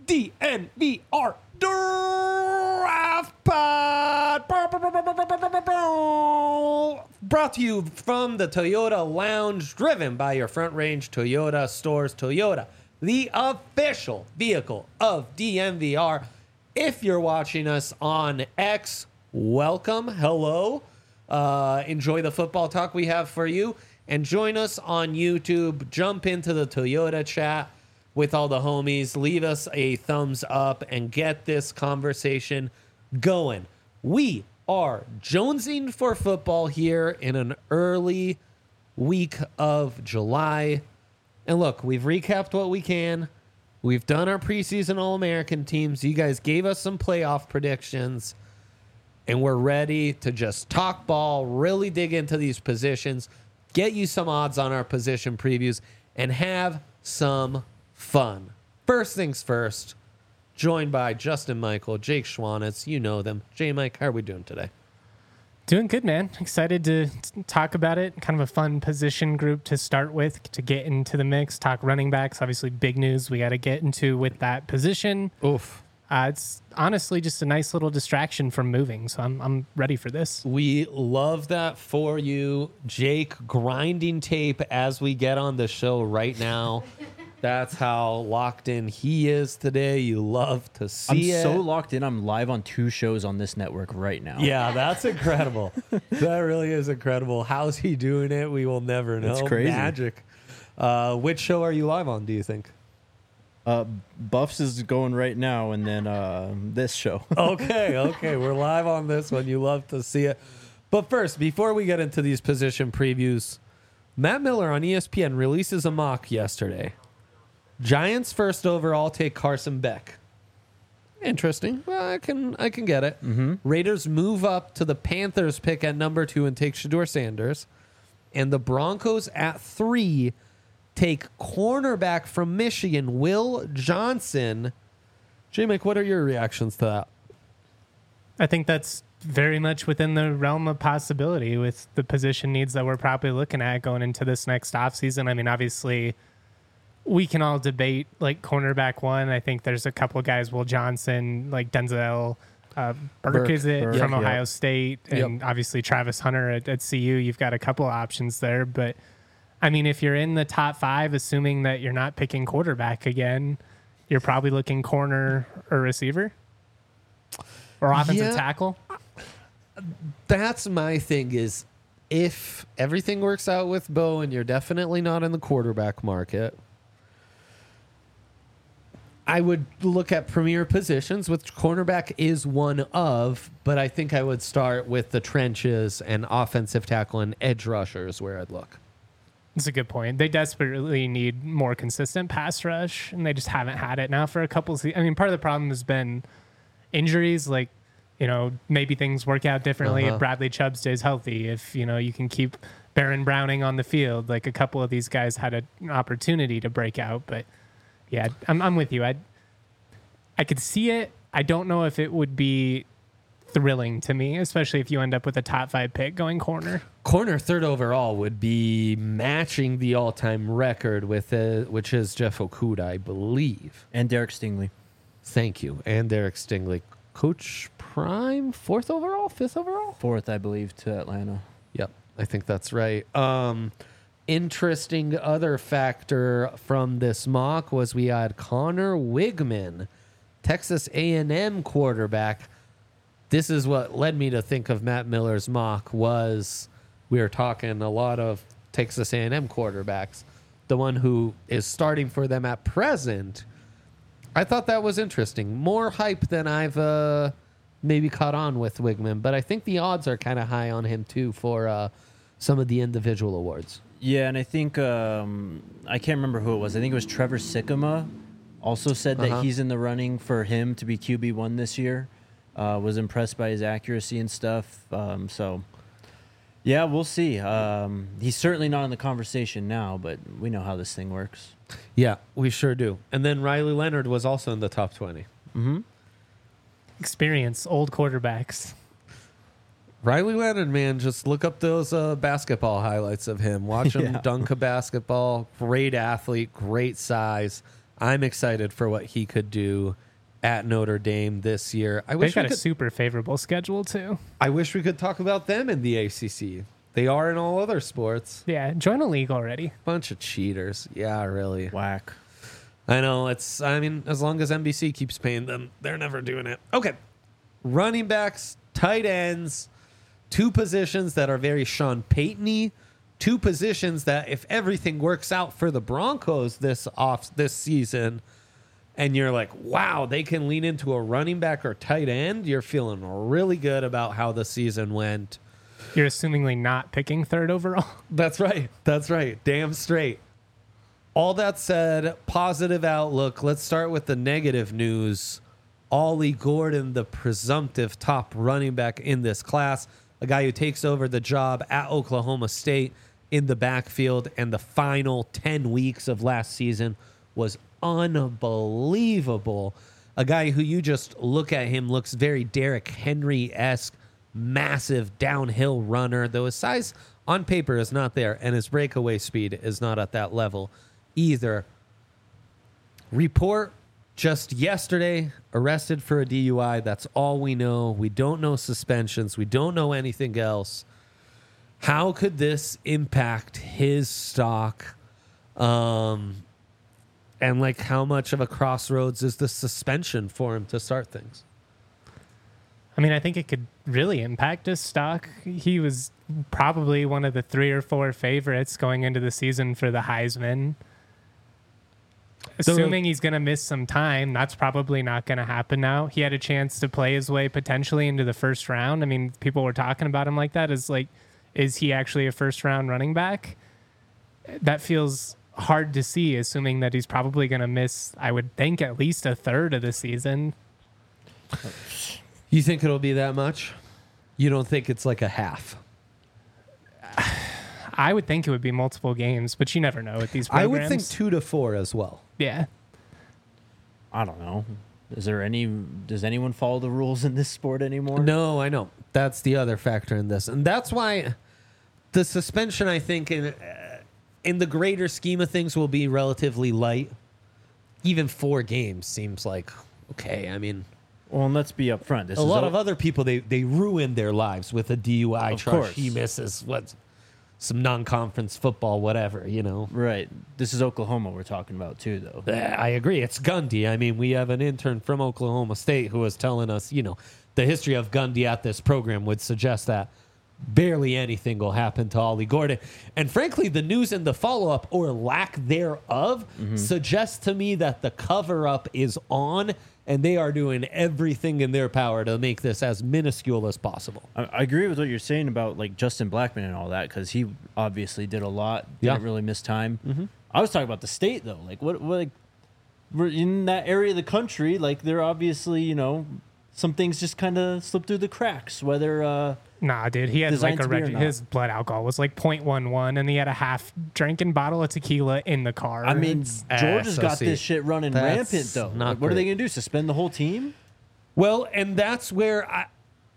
DNVR Draft Pod. Brought to you from the Toyota Lounge, driven by your Front Range Toyota stores. Toyota, the official vehicle of DNVR. If you're watching us on X, welcome. Hello. Enjoy the football talk we have for you. And join us on YouTube. Jump into the Toyota chat with all the homies. Leave us a thumbs up and get this conversation going. We are jonesing for football here in an early week of July. And look, we've recapped what we can. We've done our preseason All-American teams. You guys gave us some playoff predictions. And we're ready to just talk ball, really dig into these positions, get you some odds on our position previews, and have some fun. First things first, joined by Justin Michael, Jake Schwanitz. You know them. J-Mike, how are we doing today? Doing good, man. Excited to talk about it. Kind of a fun position group to start with, to get into the mix. Talk running backs, obviously big news we got to get into with that position. Oof. It's honestly just a nice little distraction from moving, so I'm ready for this. We love that for you. Jake grinding tape as we get on the show right now. That's how locked in he is today. You love to see it. I'm so locked in. I'm live on 2 shows on this network right now. Yeah, that's incredible. That really is incredible. How's he doing it? We will never know. It's crazy. Magic. Which show are you live on, do you think? Buffs is going right now, and then this show. Okay. We're live on this one. You love to see it. But first, before we get into these position previews, Matt Miller on ESPN releases a mock yesterday. Giants first overall take Carson Beck. Interesting. Well, I can get it. Mm-hmm. Raiders move up to the Panthers pick at number 2 and take Shedeur Sanders. And the Broncos at 3 take cornerback from Michigan, Will Johnson. J-Mike, what are your reactions to that? I think that's very much within the realm of possibility with the position needs that we're probably looking at going into this next offseason. I mean, obviously, we can all debate like cornerback 1. I think there's a couple of guys, Will Johnson, like Denzel Burke is it, from Ohio State, and obviously Travis Hunter at CU. You've got a couple of options there, but I mean, if you're in the top 5, assuming that you're not picking quarterback again, you're probably looking corner or receiver or offensive tackle. That's my thing is if everything works out with Bo and you're definitely not in the quarterback market, I would look at premier positions, which cornerback is one of, but I think I would start with the trenches and offensive tackle and edge rushers where I'd look. That's a good point. They desperately need more consistent pass rush, and they just haven't had it now for a couple of seasons. I mean, part of the problem has been injuries. Like, you know, maybe things work out differently if Bradley Chubb stays healthy. If, you know, you can keep Baron Browning on the field. Like, a couple of these guys had an opportunity to break out. But, yeah, I'm with you. I could see it. I don't know if it would be thrilling to me, especially if you end up with a top 5 pick going corner. Corner 3rd overall would be matching the all-time record with which is Jeff Okudah, I believe. And Derek Stingley. Thank you. And Derek Stingley. Coach Prime, 4th overall, 5th overall? 4th, I believe, to Atlanta. Yep, I think that's right. Interesting other factor from this mock was we had Connor Wigman, Texas A&M quarterback. This is what led me to think of Matt Miller's mock was we were talking a lot of Texas A&M quarterbacks. The one who is starting for them at present, I thought that was interesting. More hype than I've maybe caught on with Wigman, but I think the odds are kind of high on him too for some of the individual awards. Yeah, and I think, I can't remember who it was. I think it was Trevor Sikkema also said that he's in the running for him to be QB1 this year. Was impressed by his accuracy and stuff. So, yeah, we'll see. He's certainly not in the conversation now, but we know how this thing works. Yeah, we sure do. And then Riley Leonard was also in the top 20. Mm-hmm. Experience, old quarterbacks. Riley Leonard, man, just look up those basketball highlights of him. Watch him dunk a basketball. Great athlete, great size. I'm excited for what he could do at Notre Dame this year. They've got a super favorable schedule too. I wish we could talk about them in the ACC. They are in all other sports. Yeah, join a league already. Bunch of cheaters. Yeah, really. Whack. I know. As long as NBC keeps paying them, they're never doing it. Okay. Running backs, tight ends, two positions that are very Sean Payton-y, two positions that if everything works out for the Broncos this season, and you're like, wow, they can lean into a running back or tight end, you're feeling really good about how the season went. You're assumingly not picking third overall. That's right. That's right. Damn straight. All that said, positive outlook. Let's start with the negative news. Ollie Gordon, the presumptive top running back in this class, a guy who takes over the job at Oklahoma State in the backfield, and the final 10 weeks of last season was unbelievable. A guy who you just look at him looks very Derrick Henry-esque, massive downhill runner, though his size on paper is not there, and his breakaway speed is not at that level either. Report just yesterday, arrested for a DUI. That's all we know. We don't know suspensions. We don't know anything else. How could this impact his stock? And like, how much of a crossroads is the suspension for him to start things? I mean, I think it could really impact his stock. He was probably one of the 3 or 4 favorites going into the season for the Heisman. Assuming he's going to miss some time, that's probably not going to happen now. He had a chance to play his way potentially into the first round. I mean, people were talking about him like that. Is he actually a first-round running back? That feels hard to see, assuming that he's probably going to miss, I would think, at least a third of the season. You think it'll be that much? You don't think it's like a half? I would think it would be multiple games, but you never know with these programs. I would think 2 to 4 as well. Yeah. I don't know. Does anyone follow the rules in this sport anymore? No, I know. That's the other factor in this. And that's why the suspension, I think, in the greater scheme of things, will be relatively light. Even 4 games seems like, okay, I mean... Well, and let's be upfront. A lot of other people, they ruin their lives with a DUI Of charge. course. He misses some non-conference football, whatever, you know. Right. This is Oklahoma we're talking about too, though. I agree. It's Gundy. I mean, we have an intern from Oklahoma State who was telling us, you know, the history of Gundy at this program would suggest that barely anything will happen to Ollie Gordon. And frankly, the news and the follow-up or lack thereof suggests to me that the cover-up is on, and they are doing everything in their power to make this as minuscule as possible. I agree with what you're saying about like Justin Blackman and all that, because he obviously did a lot, didn't really miss time. I was talking about the state though. Like what like we're in that area of the country, like they're obviously, you know, some things just kind of slip through the cracks, whether Nah, dude, he had designed like to be or not. his blood alcohol was like 0.11, and he had a half drinking bottle of tequila in the car. I mean, It's- Georgia's got SOC. this shit running That's rampant though. not Like, what are they great. going to do? Suspend the whole team? Well, and that's where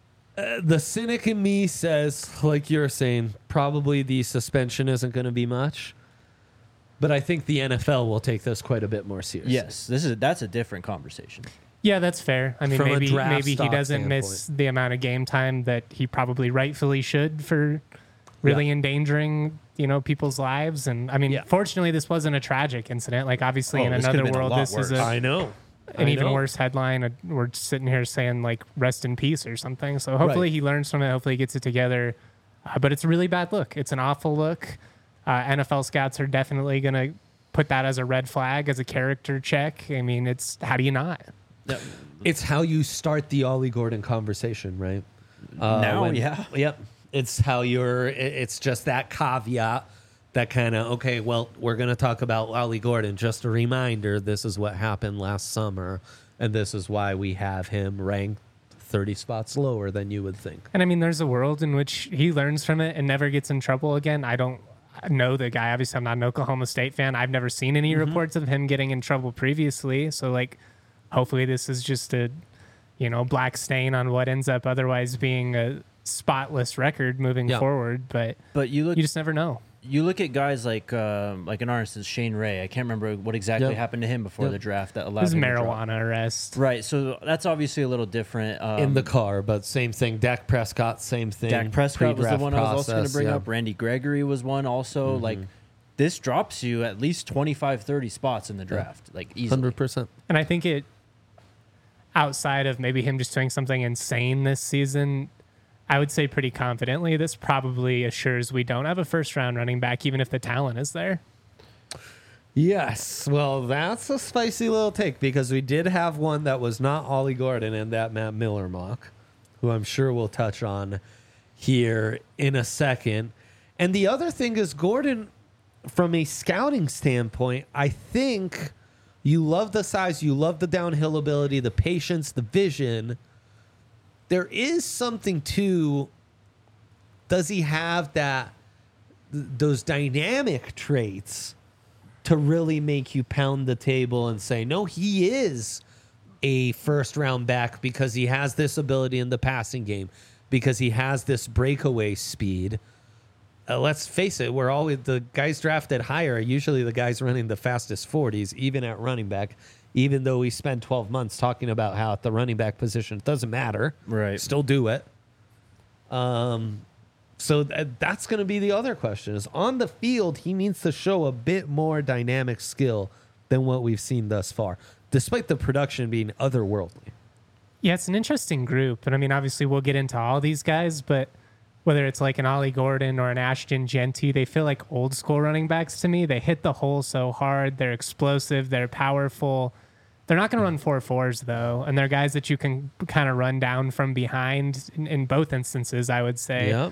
the cynic in me says, like you're saying, probably the suspension isn't going to be much. But I think the NFL will take this quite a bit more seriously. Yes, that's a different conversation. yeah, that's fair. I mean, From a draft maybe he stock doesn't miss the amount of game time that he probably rightfully should for really endangering, you know, people's lives. And I mean, fortunately, this wasn't a tragic incident. Like, obviously, in this could've another been a world, lot this is worse. I know. an even worse headline. We're sitting here saying like "rest in peace" or something. So hopefully Right. he learns from it. Hopefully he gets it together. But it's a really bad look. It's an awful look. NFL scouts are definitely going to put that as a red flag, as a character check. I mean, it's how do you not? It's how you start the Ollie Gordon conversation, right? Yeah. Yep. It's how it's just that caveat that kind of, okay, well, we're going to talk about Ollie Gordon. Just a reminder, this is what happened last summer, and this is why we have him ranked 30 spots lower than you would think. And I mean, there's a world in which he learns from it and never gets in trouble again. I don't know the guy. Obviously, I'm not an Oklahoma State fan. I've never seen any reports of him getting in trouble previously. So, like, hopefully this is just a, you know, black stain on what ends up otherwise being a spotless record moving forward. But But you you just never know. you look at guys like in our instance, Shane Ray. I can't remember what exactly Yep. happened to him before Yep. the draft that It allowed was him to drop. marijuana arrest. Right, so that's obviously a little different. in the car, but same thing. Dak Prescott, same thing. Dak Prescott was the Pre-draft one I was also going to process, bring yeah. up. Randy Gregory was one also. Like, this drops you at least 25, 30 spots in the draft, like easily. 100%. And I think it, outside of maybe him just doing something insane this season, I would say pretty confidently this probably assures we don't have a first round running back, even if the talent is there. Yes. Well, that's a spicy little take because we did have one that was not Ollie Gordon and that Matt Miller mock, who I'm sure we'll touch on here in a second. And the other thing is Gordon, from a scouting standpoint, I think you love the size, you love the downhill ability, the patience, the vision. There is something to, does he have those dynamic traits to really make you pound the table and say, no, he is a first round back because he has this ability in the passing game, because he has this breakaway speed. Let's face it, we're always the guys drafted higher are usually the guys running the fastest 40s, even at running back, even though we spend 12 months talking about how at the running back position it doesn't matter. Right. Still do it. So that's going to be the other question is on the field, he needs to show a bit more dynamic skill than what we've seen thus far, despite the production being otherworldly. Yeah, it's an interesting group. And I mean, obviously, we'll get into all these guys, but whether it's like an Ollie Gordon or an Ashton Genty, they feel like old school running backs to me. They hit the hole so hard. They're explosive. They're powerful. They're not going to run 4.4s, though. And they're guys that you can kind of run down from behind in both instances, I would say. Yep.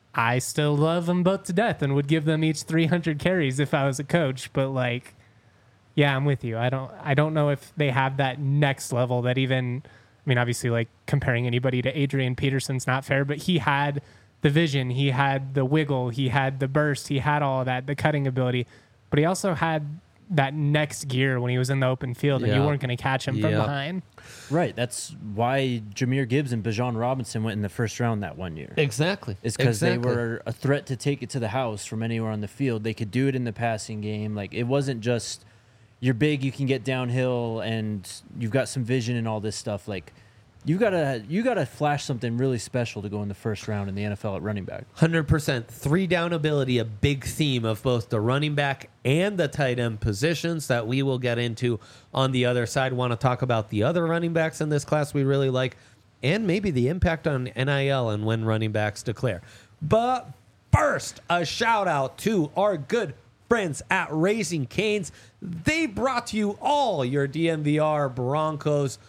I still love them both to death and would give them each 300 carries if I was a coach. But like, yeah, I'm with you. I don't know if they have that next level that even, I mean, obviously like comparing anybody to Adrian Peterson's not fair, but he had the vision, he had the wiggle, he had the burst, he had all of that, the cutting ability, but he also had that next gear when he was in the open field and you Yeah. weren't going to catch him from Yeah. behind. Right, that's why Jameer Gibbs and Bijan Robinson went in the first round that one year. Exactly. It's because they were a threat to take it to the house from anywhere on the field. They could do it in the passing game. Like, it wasn't just you're big, you can get downhill, and you've got some vision and all this stuff. Like, you gotta flash something really special to go in the first round in the NFL at running back. 100%. 3-down ability, a big theme of both the running back and the tight end positions that we will get into on the other side. Want to talk about the other running backs in this class we really like and maybe the impact on NIL and when running backs declare. But first, a shout out to our good friends at Raising Cane's. They brought you all your DNVR Broncos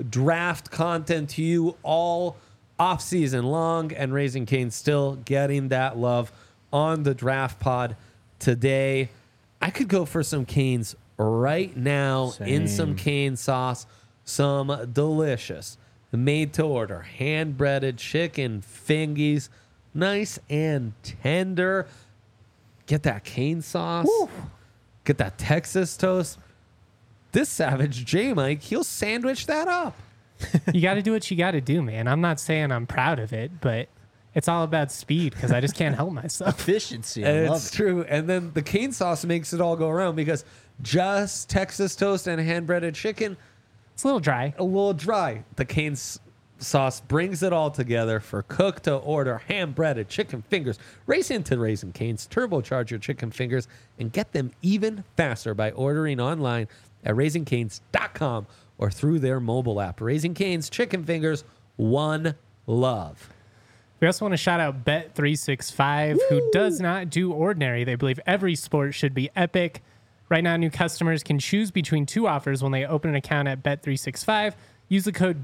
draft content to you all off season long, and Raising Cane's still getting that love on the draft pod today. I could go for some Cane's right now in some Same. cane sauce, some delicious made to order hand breaded chicken fingies, nice and tender. Get that cane sauce. Get that Texas toast. This savage J Mike, he'll sandwich that up. You got to do what you got to do, man. I'm not saying I'm proud of it, but it's all about speed because I just can't help myself. Efficiency, I And love it's it. true. And then the cane sauce makes it all go around because just Texas toast and hand breaded chicken, It's a little dry. a little dry. The cane sauce brings it all together for cook to order hand breaded chicken fingers. Race into Raising Cane's, turbocharge your chicken fingers, and get them even faster by ordering online at raisingcanes.com or through their mobile app. Raising Cane's chicken fingers, one love. We also want to shout out Bet365, who does not do ordinary. They believe every sport should be epic. Right now, new customers can choose between two offers when they open an account at Bet365. Use the code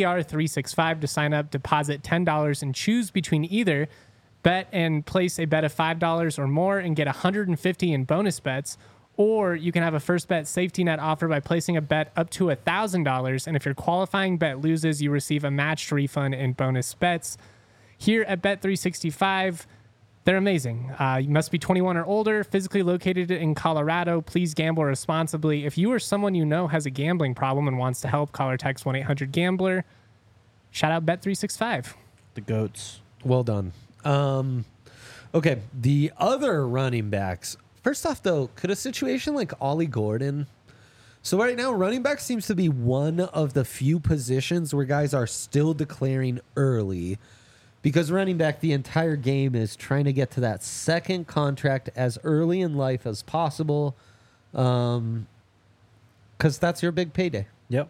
DNVR365 to sign up, deposit $10, and choose between either bet and place a bet of $5 or more and get $150 in bonus bets. Or you can have a first bet safety net offer by placing a bet up to $1,000. And if your qualifying bet loses, you receive a matched refund in bonus bets. Here at Bet365, they're amazing. You must be 21 or older, physically located in Colorado. Please gamble responsibly. If you or someone you know has a gambling problem and wants to help, call or text 1-800-GAMBLER. Shout out Bet365. The goats. Well done. Okay, the other running backs. First off, though, could a situation like Ollie Gordon? So right now, running back seems to be one of the few positions where guys are still declaring early, because running back, the entire game is trying to get to that second contract as early in life as possible, because that's your big payday. Yep.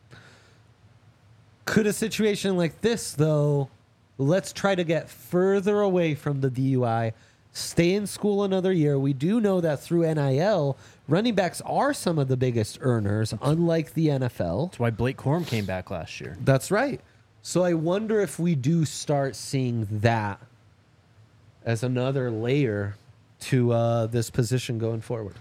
Could a situation like this, though, let's try to get further away from the DUI, stay in school another year. We do know that through NIL, running backs are some of the biggest earners, unlike the NFL. That's why Blake Corum came back last year. That's right. So I wonder if we do start seeing that as another layer to this position going forward.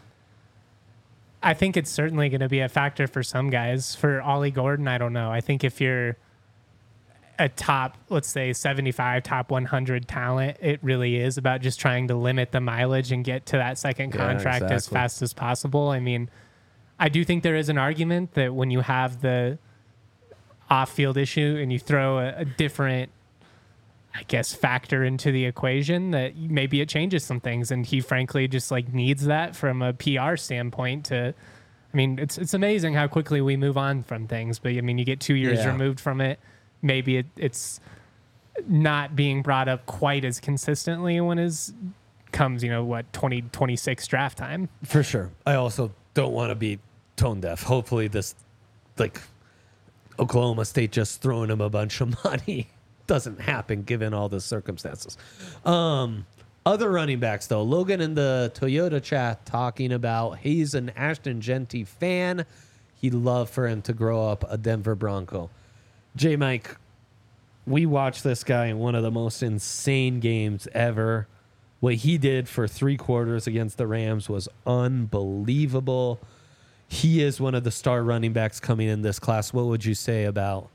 I think it's certainly going to be a factor for some guys. For Ollie Gordon, I don't know. I think if you're a top, let's say 75, top 100 talent, it really is about just trying to limit the mileage and get to that second contract as fast as possible. I mean, I do think there is an argument that when you have the off-field issue and you throw a different, I guess, factor into the equation, that maybe it changes some things. And he frankly just like needs that from a PR standpoint to, I mean, it's amazing how quickly we move on from things, but I mean, you get 2 years removed from it. Maybe it's not being brought up quite as consistently when it comes, 2026 draft time. For sure. I also don't want to be tone deaf. Hopefully this, like, Oklahoma State just throwing him a bunch of money doesn't happen given all the circumstances. Other running backs, though. Logan in the Toyota chat talking about he's an Ashton Genty fan. He'd love for him to grow up a Denver Bronco. J. Mike, we watched this guy in one of the most insane games ever. What he did for 3 quarters against the Rams was unbelievable. He is one of the star running backs coming in this class. What would you say about,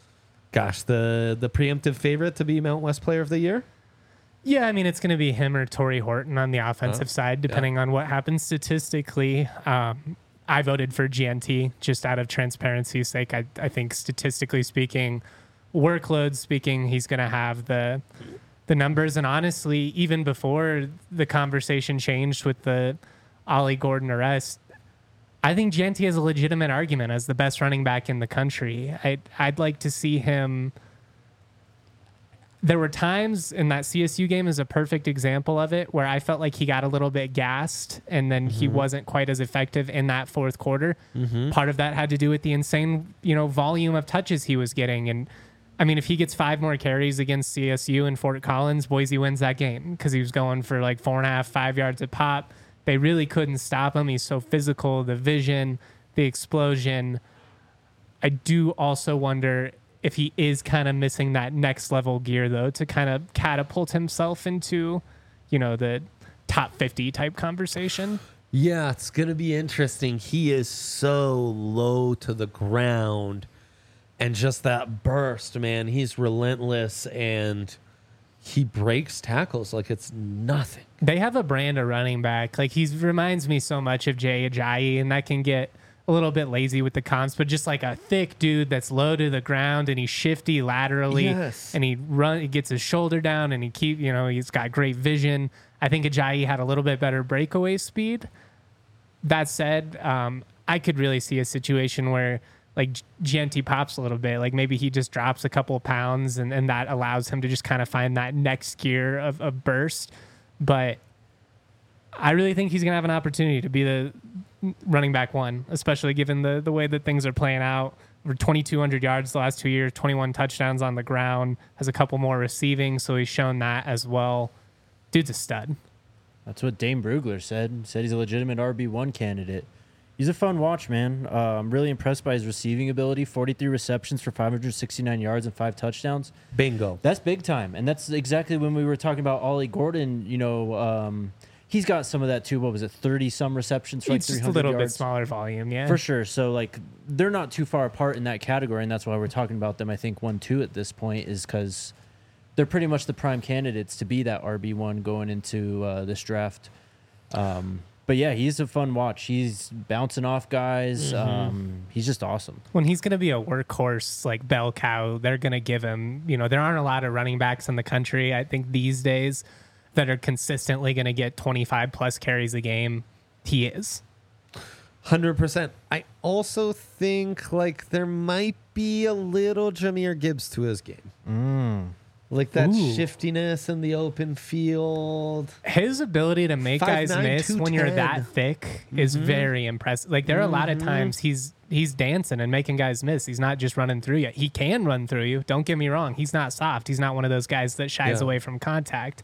the preemptive favorite to be Mount West Player of the Year? Yeah, I mean, it's going to be him or Torrey Horton on the offensive side, depending on what happens statistically. I voted for GNT just out of transparency's sake. I think statistically speaking, workload speaking, he's going to have the numbers. And honestly, even before the conversation changed with the Ollie Gordon arrest, I think GNT has a legitimate argument as the best running back in the country. I'd like to see him. There were times in that CSU game is a perfect example of it where I felt like he got a little bit gassed and then he wasn't quite as effective in that fourth quarter. Part of that had to do with the insane, volume of touches he was getting. And I mean, if he gets 5 more carries against CSU and Fort Collins, Boise wins that game because he was going for like 4.5, 5 yards a pop. They really couldn't stop him. He's so physical, the vision, the explosion. I do also wonder if he is kind of missing that next level gear, though, to kind of catapult himself into, the top 50 type conversation. Yeah, it's going to be interesting. He is so low to the ground, and just that burst, man, he's relentless, and he breaks tackles like it's nothing. They have a brand of running back. Like, he reminds me so much of Jay Ajayi, and that can get a little bit lazy with the comps, but just like a thick dude that's low to the ground and he's shifty laterally, and he gets his shoulder down, and he's got great vision. I think Ajayi had a little bit better breakaway speed. That said, I could really see a situation where like GNT pops a little bit, like maybe he just drops a couple of pounds and that allows him to just kind of find that next gear of burst. But I really think he's going to have an opportunity to be the running back 1, especially given the way that things are playing out. Over 2,200 yards the last 2 years, 21 touchdowns on the ground, has a couple more receiving, so he's shown that as well. Dude's a stud. That's what Dane Brugler said. Said he's a legitimate RB1 candidate. He's a fun watch, man. I'm really impressed by his receiving ability. 43 receptions for 569 yards and 5 touchdowns. Bingo. That's big time. And that's exactly when we were talking about Ollie Gordon. He's got some of that too. What was it, 30-some receptions for like 300 yards? Just a little bit smaller volume, yeah. For sure. So, like, they're not too far apart in that category, and that's why we're talking about them, I think, 1-2 at this point, is because they're pretty much the prime candidates to be that RB1 going into this draft. But, yeah, he's a fun watch. He's bouncing off guys. He's just awesome. When he's going to be a workhorse, like bell cow, they're going to give him, there aren't a lot of running backs in the country, I think, these days that are consistently going to get 25 plus carries a game, he is. 100%. I also think like there might be a little Jahmyr Gibbs to his game. Like that Ooh. shiftiness in the open field. His ability to make guys 5'9", miss when you're 210. that thick is very impressive. Like there are a lot of times he's dancing and making guys miss. He's not just running through you. He can run through you. Don't get me wrong. He's not soft. He's not one of those guys that shies Yeah. away from contact.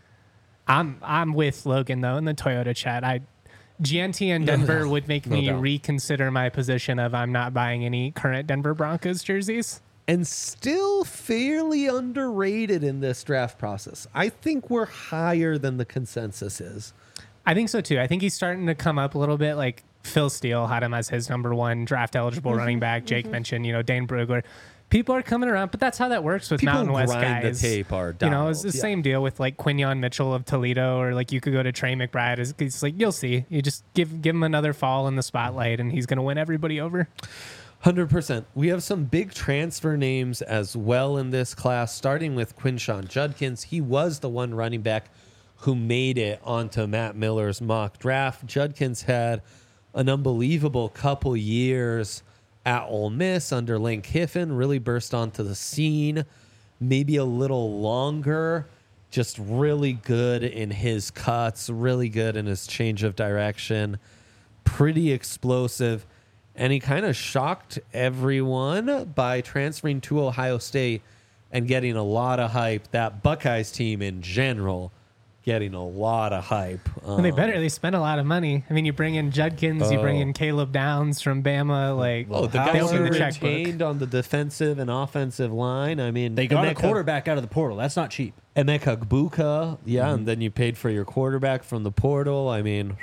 I'm with Logan though in the Toyota chat. GNT and Denver would make No me doubt. reconsider my position of I'm not buying any current Denver Broncos jerseys. And still fairly underrated in this draft process. I think we're higher than the consensus is. I think so too. I think he's starting to come up a little bit. Like Phil Steele had him as his number one draft eligible running back. Jake mentioned, Dane Brugler. People are coming around, but that's how that works with People Mountain West grind the guys. tape are It's dialed, the yeah. same deal with like Quinyon Mitchell of Toledo, or like you could go to Trey McBride. It's like you'll see. You just give him another fall in the spotlight, and he's going to win everybody over. 100%. We have some big transfer names as well in this class, starting with Quinshon Judkins. He was the one running back who made it onto Matt Miller's mock draft. Judkins had an unbelievable couple years at Ole Miss under Lane Kiffin, really burst onto the scene, maybe a little longer, just really good in his cuts, really good in his change of direction, pretty explosive. And he kind of shocked everyone by transferring to Ohio State and getting a lot of hype. That Buckeyes team in general getting a lot of hype. And they spent a lot of money. I mean, you bring in Judkins, you bring in Caleb Downs from Bama. Like, Oh, the they guys opened who the checkbook. retained on the defensive and offensive line. I mean, They got a Emeka- quarterback out of the portal. That's not cheap. Emeka Egbuka, yeah, and then you paid for your quarterback from the portal. I mean,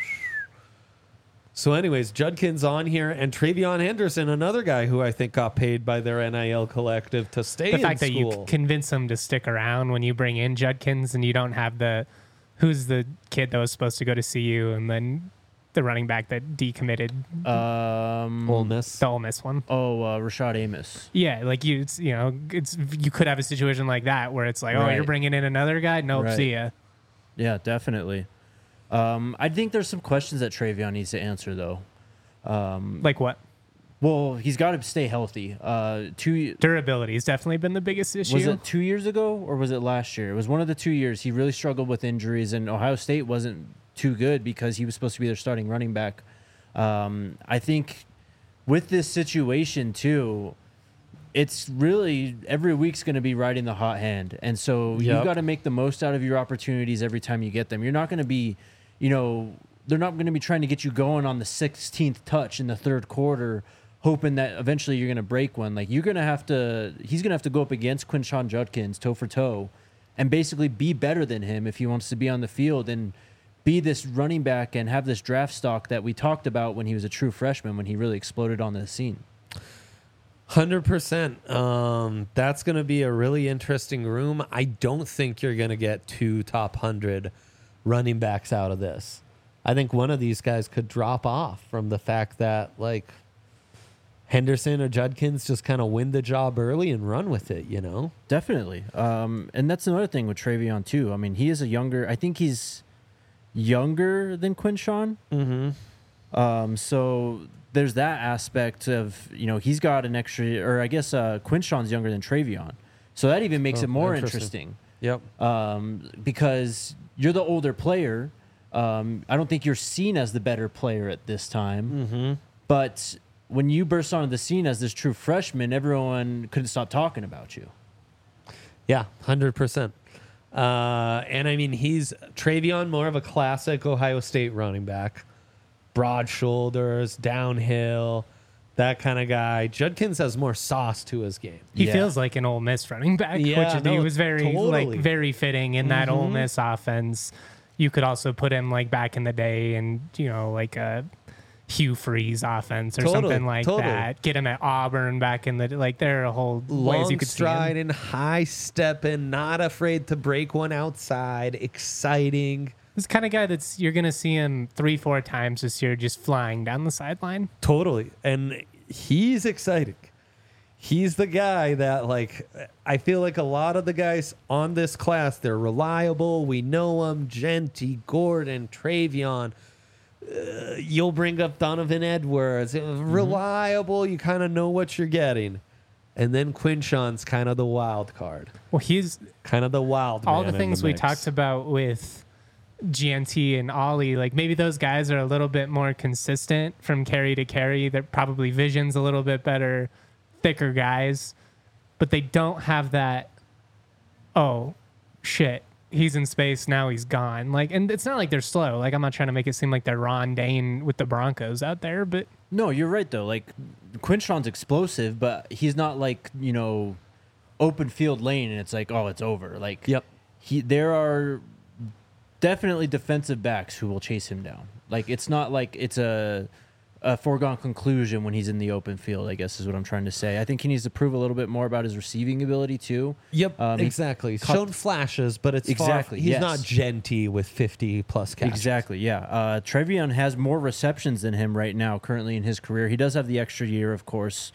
so anyways, Judkins on here, and Travion Henderson, another guy who I think got paid by their NIL collective to stay The in fact that school. you convince him to stick around when you bring in Judkins and you don't have who's the kid that was supposed to go to CU and then the running back that decommitted, Ole Miss. the Ole Miss one. Rashad Amos. Yeah, like you could have a situation like that where it's like, oh, Right. you're bringing in another guy? Nope, Right. see ya. Yeah, definitely. I think there's some questions that Travion needs to answer, though. Like what? Well, he's got to stay healthy. Durability has definitely been the biggest issue. Was it 2 years ago or was it last year? It was one of the 2 years. He really struggled with injuries, and Ohio State wasn't too good because he was supposed to be their starting running back. I think with this situation, too, it's really every week's going to be riding the hot hand. And so you Yep. got to make the most out of your opportunities every time you get them. You're not going to be, they're not going to be trying to get you going on the 16th touch in the third quarter, hoping that eventually you're going to break one. Like he's going to have to go up against Quinshon Judkins toe for toe and basically be better than him if he wants to be on the field and be this running back and have this draft stock that we talked about when he was a true freshman, when he really exploded on the scene. 100%. That's going to be a really interesting room. I don't think you're going to get 2 top 100 running backs out of this. I think one of these guys could drop off from the fact that, like, Henderson or Judkins just kind of win the job early and run with it, Definitely. And that's another thing with Travion, too. I mean, I think he's younger than Quinshon. Mm-hmm. So there's that aspect of, he's got an extra, or I guess Quinshon's younger than Travion. So that even makes it more interesting. Yep. Because you're the older player. I don't think you're seen as the better player at this time. Mm-hmm. But when you burst onto the scene as this true freshman, everyone couldn't stop talking about you. Yeah, 100%. And I mean, he's Travion, more of a classic Ohio State running back. Broad shoulders, downhill, that kind of guy. Judkins has more sauce to his game. He Yeah. feels like an Ole Miss running back, Yeah, which no, he was totally. very fitting in that Ole Miss offense. You could also put him like back in the day and, like a Hugh Freeze offense or Totally, something like totally. that. Get him at Auburn back in the, like there are a whole ways Long you could see him. striding, high stepping, not afraid to break one outside, exciting. This kind of guy you're going to see him 3-4 times this year just flying down the sideline. Totally. And he's exciting. he's the guy that, like, I feel like a lot of the guys on this class, they're reliable. We know them. Genty, Gordon, Travion. You'll bring up Donovan Edwards. Reliable. You kind of know what you're getting. And then Quinshon's kind of the wild card. Well, he's kind of the wild all man the things in the we mix. talked about with GNT and Ollie. Like maybe those guys are a little bit more consistent from carry to carry. They're probably vision's a little bit better, thicker guys, but they don't have that. Oh, shit. He's in space, now he's gone. Like, and it's not like they're slow. Like, I'm not trying to make it seem like they're Ron Dane with the Broncos out there, but No, you're right though. Like Quinshon's explosive, but he's not like, open field lane and it's like, oh, it's over. Like Yep. there are definitely defensive backs who will chase him down. Like it's not like it's a foregone conclusion when he's in the open field, I guess is what I'm trying to say. I think he needs to prove a little bit more about his receiving ability too. Yep, He exactly. cut- Shown flashes, but it's Exactly, He's yes. not Genty with 50-plus catches. Exactly, yeah. Trevion has more receptions than him right now, currently in his career. He does have the extra year, of course.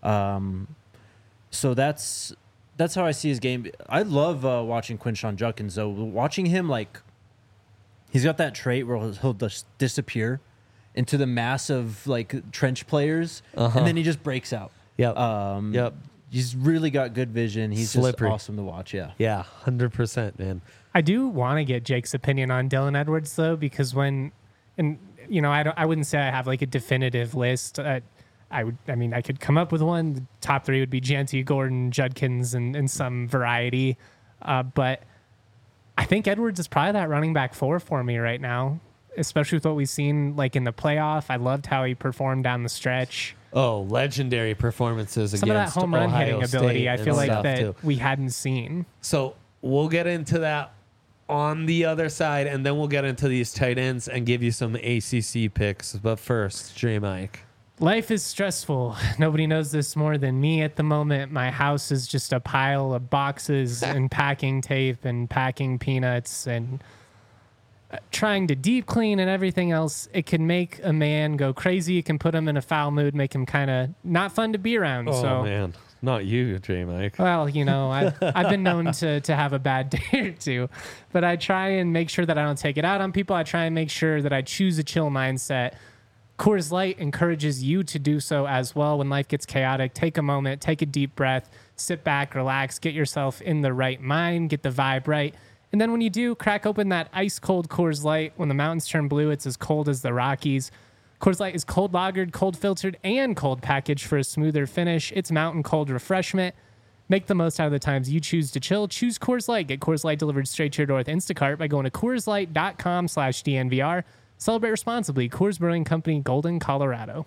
So that's how I see his game. I love watching Quinshon Judkins, though. Watching him, like, he's got that trait where he'll just disappear into the mass of, like, trench players, and then he just breaks out. Yep. Yep. He's really got good vision. He's Slippery. just awesome to watch, yeah. Yeah, 100%, man. I do want to get Jake's opinion on Dylan Edwards though, because I wouldn't say I have like a definitive list. I could come up with one. The top three would be Genty, Gordon, Judkins, and some variety. But I think Edwards is probably that running back 4 for me right now, especially with what we've seen like in the playoff. I loved how he performed down the stretch. Oh, legendary performances Some of that against home run Ohio hitting ability, State I and feel like stuff, that too. we hadn't seen. So we'll get into that on the other side, and then we'll get into these tight ends and give you some ACC picks. But first, J. Mike. Life is stressful. Nobody knows this more than me at the moment. My house is just a pile of boxes and packing tape and packing peanuts and trying to deep clean and everything else. It can make a man go crazy. It can put him in a foul mood, make him kind of not fun to be around. Oh, so, man. Not you, J. Mike. well, I've been known to have a bad day or two, but I try and make sure that I don't take it out on people. I try and make sure that I choose a chill mindset. Coors Light encourages you to do so as well. When life gets chaotic, take a moment, take a deep breath, sit back, relax, get yourself in the right mind, get the vibe right. And then when you do, crack open that ice cold Coors Light. When the mountains turn blue, it's as cold as the Rockies. Coors Light is cold lagered, cold filtered, and cold packaged for a smoother finish. It's mountain cold refreshment. Make the most out of the times you choose to chill. Choose Coors Light. Get Coors Light delivered straight to your door with Instacart by going to CoorsLight.com/DNVR. Celebrate responsibly. Coors Brewing Company, Golden, Colorado.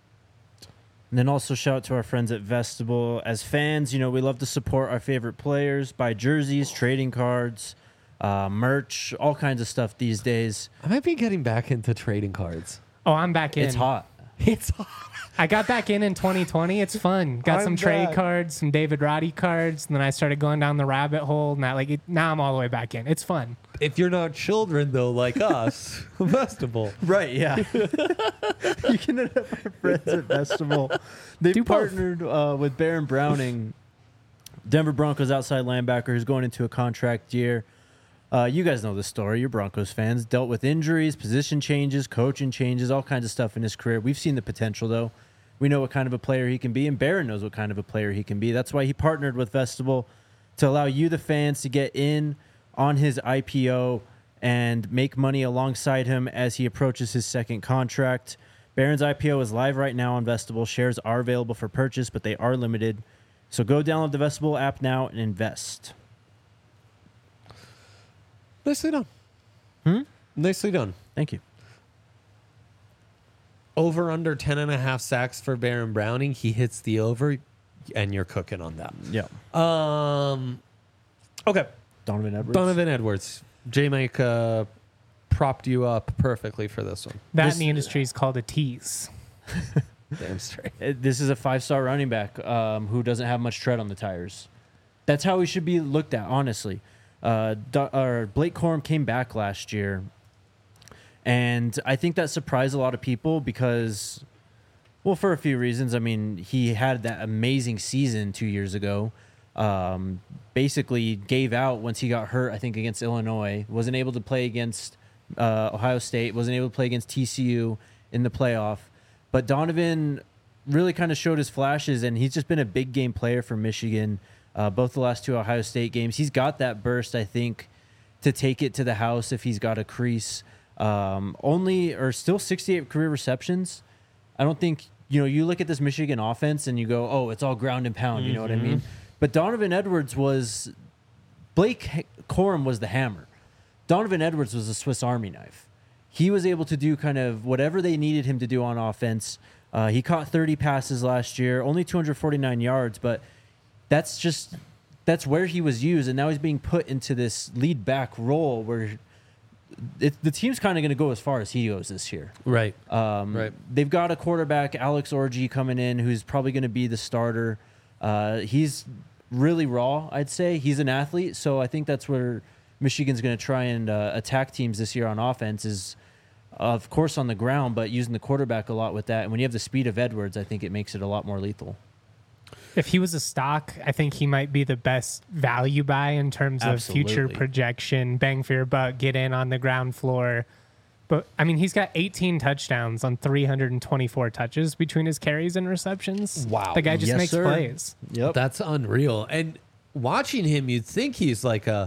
And then also shout out to our friends at Vestibule. As fans, we love to support our favorite players, buy jerseys, trading cards, merch, all kinds of stuff these days. I might be getting back into trading cards. Oh, I'm back in. It's hot. It's hot. I got back in 2020. It's fun. Got I'm some trade back. cards, some David Roddy cards, and then I started going down the rabbit hole. And now I'm all the way back in. It's fun. If you're not children, though, like us, Festival. Right, yeah. You can hit up our friends at Vestibule. They've Do both. partnered with Baron Browning, Denver Broncos outside linebacker who's going into a contract year. You guys know the story. You're Broncos fans. Dealt with injuries, position changes, coaching changes, all kinds of stuff in his career. We've seen the potential, though. We know what kind of a player he can be, and Baron knows what kind of a player he can be. That's why he partnered with Vestibule to allow you, the fans, to get in on his IPO and make money alongside him as he approaches his second contract. Baron's IPO is live right now on Vestibule. Shares are available for purchase, but they are limited. So go download the Vestibule app now and invest. Nicely done. Nicely done. Thank you. Over under 10.5 sacks for Baron Browning. He hits the over, and you're cooking on that. Yeah. Okay. Donovan Edwards. Donovan Edwards. J. Mike propped you up perfectly for this one. That This- in the industry is called a tease. Damn straight. This is a 5-star running back who doesn't have much tread on the tires. That's how he should be looked at, honestly. Blake Corum came back last year, and I think that surprised a lot of people because Well, for a few reasons. I mean, he had that amazing season 2 years ago. Basically gave out once he got hurt, I think, against Illinois. Wasn't able to play against Ohio State. Wasn't able to play against TCU in the playoff. But Donovan really kind of showed his flashes, and he's just been a big game player for Michigan. Both the last 2 Ohio State games. He's got that burst, I think, to take it to the house if he's got a crease. Still 68 career receptions. I don't think, you look at this Michigan offense and you go, oh, it's all ground and pound. You know what I mean? But Donovan Edwards Blake Corum was the hammer. Donovan Edwards was a Swiss Army knife. He was able to do kind of whatever they needed him to do on offense. He caught 30 passes last year, only 249 yards, but that's where he was used, and now he's being put into this lead back role where the team's kind of going to go as far as he goes this year. Right. Right. They've got a quarterback, Alex Orji, coming in, who's probably going to be the starter. He's really raw, I'd say. He's an athlete, so I think that's where Michigan's going to try and attack teams this year on offense is, of course, on the ground, but using the quarterback a lot with that. And when you have the speed of Edwards, I think it makes it a lot more lethal. If he was a stock, I think he might be the best value buy in terms of future projection, bang for your buck, get in on the ground floor. But, I mean, he's got 18 touchdowns on 324 touches between his carries and receptions. Wow. The guy just makes plays. Yep. That's unreal. And watching him, you'd think he's like a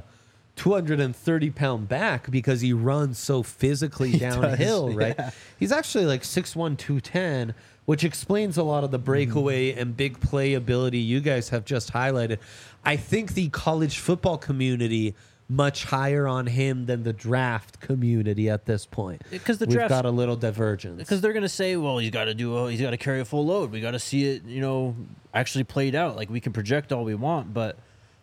230-pound back because he runs so physically downhill, right? Yeah. He's actually like 6'1", 210, which explains a lot of the breakaway and big play ability you guys have just highlighted. I think the college football community much higher on him than the draft community at this point. Because the We've draft got a little divergence. Because they're going to say, well, he's got to carry a full load. We got to see it, actually played out. Like, we can project all we want, but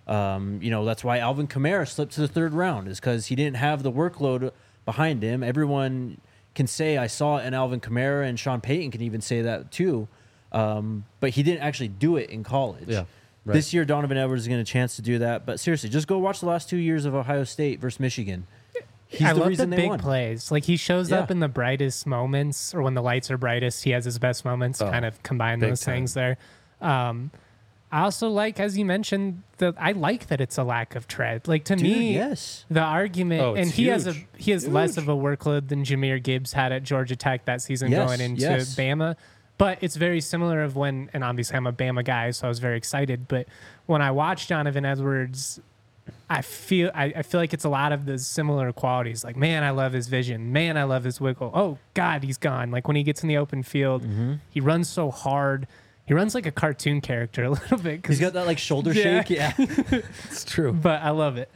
that's why Alvin Kamara slipped to the 3rd round, is because he didn't have the workload behind him. Everyone can say, I saw it in Alvin Kamara, and Sean Payton can even say that too. But he didn't actually do it in college. Yeah. Right. This year, Donovan Edwards is getting a chance to do that. But seriously, just go watch the last 2 years of Ohio State versus Michigan. I love the big plays. Like, he shows up in the brightest moments, or when the lights are brightest, he has his best moments. Kind of combine those things there. I also like, as you mentioned, I like that it's a lack of tread. Like, to me, yes. The argument, and he has less of a workload than Jahmyr Gibbs had at Georgia Tech that season going into Bama. But it's very similar of when, and obviously I'm a Bama guy, so I was very excited. But when I watched Donovan Edwards, I feel like it's a lot of the similar qualities. Like, man, I love his vision. Man, I love his wiggle. Oh, God, he's gone. Like, when he gets in the open field, he runs so hard. He runs like a cartoon character a little bit. He's got that, like, shoulder shake. Yeah. It's true. But I love it.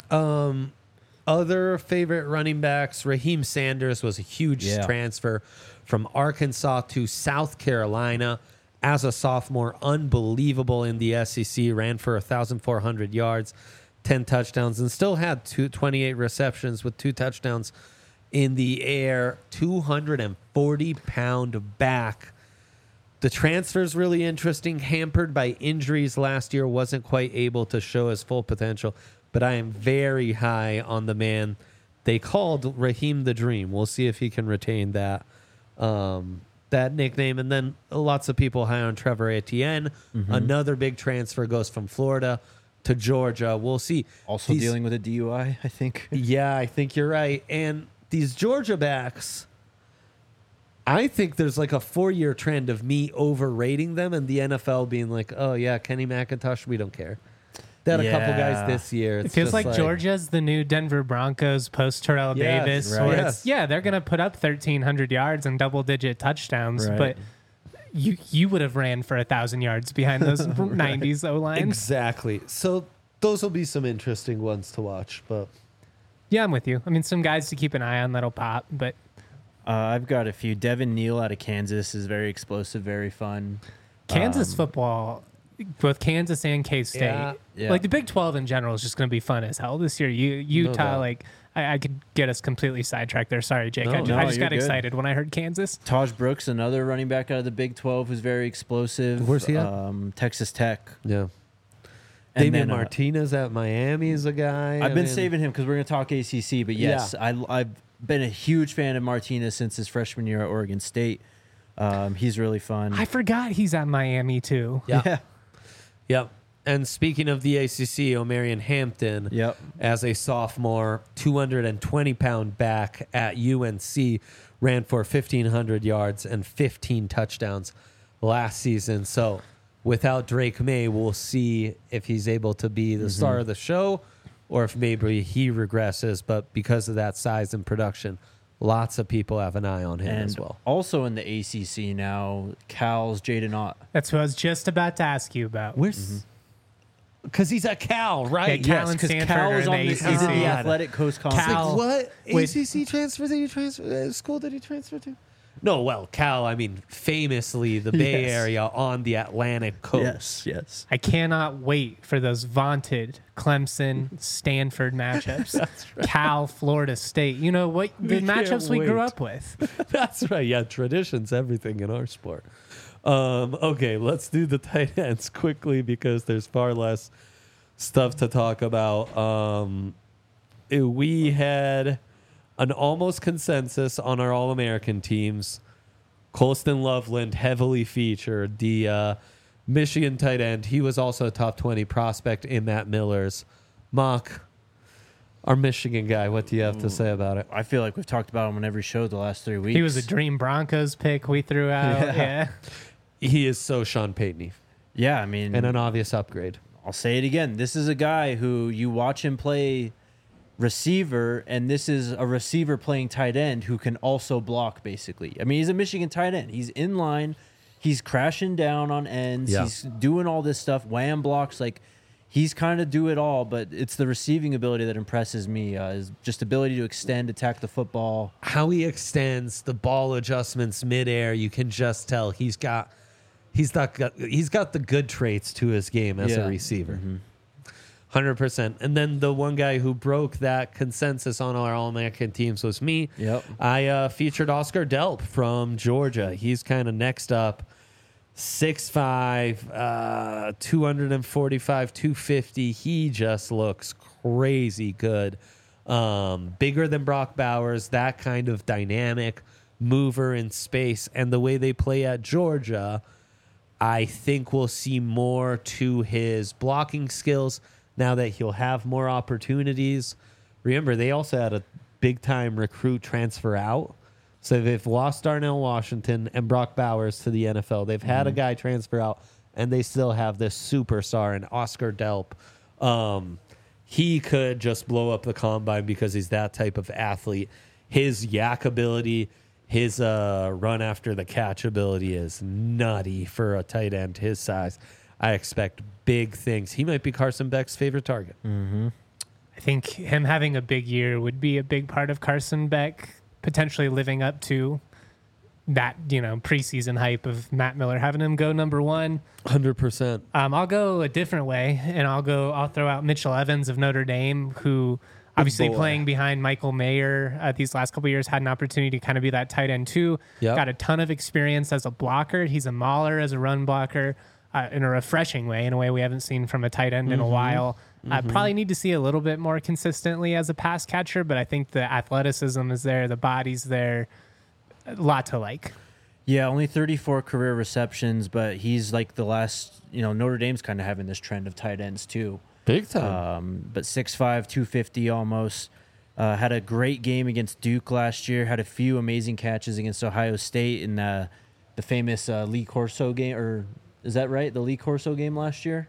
Other favorite running backs, Raheem Sanders was a huge transfer from Arkansas to South Carolina as a sophomore. Unbelievable in the SEC. Ran for 1,400 yards, 10 touchdowns, and still had 28 receptions with 2 touchdowns in the air. 240-pound back. The transfer's really interesting. Hampered by injuries last year. Wasn't quite able to show his full potential. But I am very high on the man they called Raheem the Dream. We'll see if he can retain that nickname. And then lots of people high on Trevor Etienne. Another big transfer goes from Florida to Georgia. We'll see. Also dealing with a DUI, I think. Yeah, I think you're right. And these Georgia backs, I think there's like a 4-year trend of me overrating them and the NFL being like, oh, yeah, Kenny McIntosh, we don't care. They had a couple guys this year. It feels like Georgia's the new Denver Broncos post Terrell Davis. Right. Where they're going to put up 1,300 yards and double-digit touchdowns, but you would have ran for 1,000 yards behind those 90s O-lines. Exactly. So those will be some interesting ones to watch. But yeah, I'm with you. I mean, some guys to keep an eye on that'll pop, but I've got a few. Devin Neal out of Kansas is very explosive, very fun. Kansas football, both Kansas and K-State. Yeah. Like, the Big 12 in general is just going to be fun as hell this year. Utah, I could get us completely sidetracked there. Sorry, Jake. I just got excited when I heard Kansas. Taj Brooks, another running back out of the Big 12 who's very explosive. Where's he at? Texas Tech. Yeah. And Damian then, Martinez at Miami is a guy. I've been saving him because we're going to talk ACC. But yes, I've been a huge fan of Martinez since his freshman year at Oregon State. He's really fun. I forgot he's at Miami too. Yeah. Yep. And speaking of the ACC, Omarion Hampton, Yep. as a sophomore, 220-pound back at UNC, ran for 1,500 yards and 15 touchdowns last season. So without Drake May, we'll see if he's able to be the star of the show or if maybe he regresses. But because of that size and production, lots of people have an eye on him And as well. also in the ACC now, Cal's Jaden Ott. That's what I was just about to ask you about. Where's... Because he's at Cal, right? Yeah, Cal and because Stanford Cal are is in on the the, he's in the ACC. Athletic Coast Conference. Cal- What with- ACC transfer did you transfer? School did he transfer to? No, well, Cal. I mean, famously the Bay Yes. Area on the Atlantic coast. Yes. I cannot wait for those vaunted Clemson Stanford matchups. Cal, Florida State. You know what the can't matchups we grew wait. up with. That's right. Yeah, tradition's everything in our sport. Okay, let's do the tight ends quickly because there's far less stuff to talk about. We had an almost consensus on our All-American teams. Colston Loveland heavily featured the Michigan tight end. He was also a top 20 prospect in Matt Miller's mock. Our Michigan guy, what do you have to say about it? I feel like we've talked about him on every show the last 3 weeks. He was a Dream Broncos pick we threw out. Yeah. He is so Sean Payton Yeah, I mean, and an obvious upgrade. I'll say it again. This is a guy who you watch him play receiver, and this is a receiver playing tight end who can also block, basically. I mean, he's a Michigan tight end. He's in line. He's crashing down on ends. Yeah. He's doing all this stuff. Wham blocks. Like, he's kind of do it all, but it's the receiving ability that impresses me. His just ability to extend, attack the football. How he extends the ball adjustments midair, you can just tell he's got the good traits to his game as a receiver. 100%. And then the one guy who broke that consensus on our All-American teams was me. Yep. I featured Oscar Delp from Georgia. He's kind of next up. 6'5", 245, 250. He just looks crazy good. Bigger than Brock Bowers, that kind of dynamic mover in space. And the way they play at Georgia, I think we'll see more to his blocking skills now that he'll have more opportunities. Remember, they also had a big-time recruit transfer out. So they've lost Darnell Washington and Brock Bowers to the NFL. They've had a guy transfer out, and they still have this superstar in Oscar Delp. He could just blow up the combine because he's that type of athlete. His yak ability, his run after the catch ability is nutty for a tight end his size. I expect big things. He might be Carson Beck's favorite target. I think him having a big year would be a big part of Carson Beck potentially living up to that, preseason hype of Matt Miller having him go number one. 100%. I'll go a different way, and I'll throw out Mitchell Evans of Notre Dame, who obviously playing behind Michael Mayer these last couple of years had an opportunity to kind of be that tight end too. Yep. Got a ton of experience as a blocker. He's a mauler as a run blocker. In a refreshing way, in a way we haven't seen from a tight end in a while. I probably need to see a little bit more consistently as a pass catcher, but I think the athleticism is there, the body's there, a lot to like. Yeah, only 34 career receptions, but he's like the last, Notre Dame's kind of having this trend of tight ends too. Big time. But 6'5", 250 almost. Had a great game against Duke last year, had a few amazing catches against Ohio State in the famous Lee Corso game, or is that right? The Lee Corso game last year?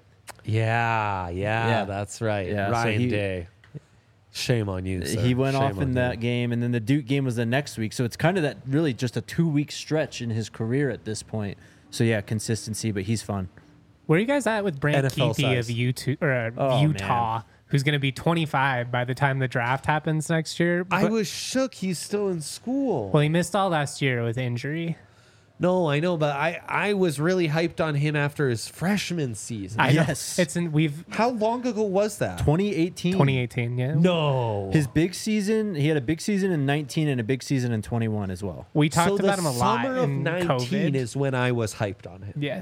Yeah, that's right. Yeah, so Ryan Day. Shame on you, sir. He went Shame off on in you. that game, and then the Duke game was the next week. So it's kind of that really just a 2-week stretch in his career at this point. So yeah, consistency, but he's fun. Where are you guys at with Brant NFL Keithy size. of Oh, Utah, who's going to be 25 by the time the draft happens next year? I But- was shook he's still in school. well, he missed all last year with injury. No, I know, but I was really hyped on him after his freshman season. I know. Yes. We've How long ago was that? 2018. 2018, yeah. No. His big season, he had a big season in 19 and a big season in 21 as well. We talked so about the him a lot summer of in 19 COVID. is when I was hyped on him. Yeah.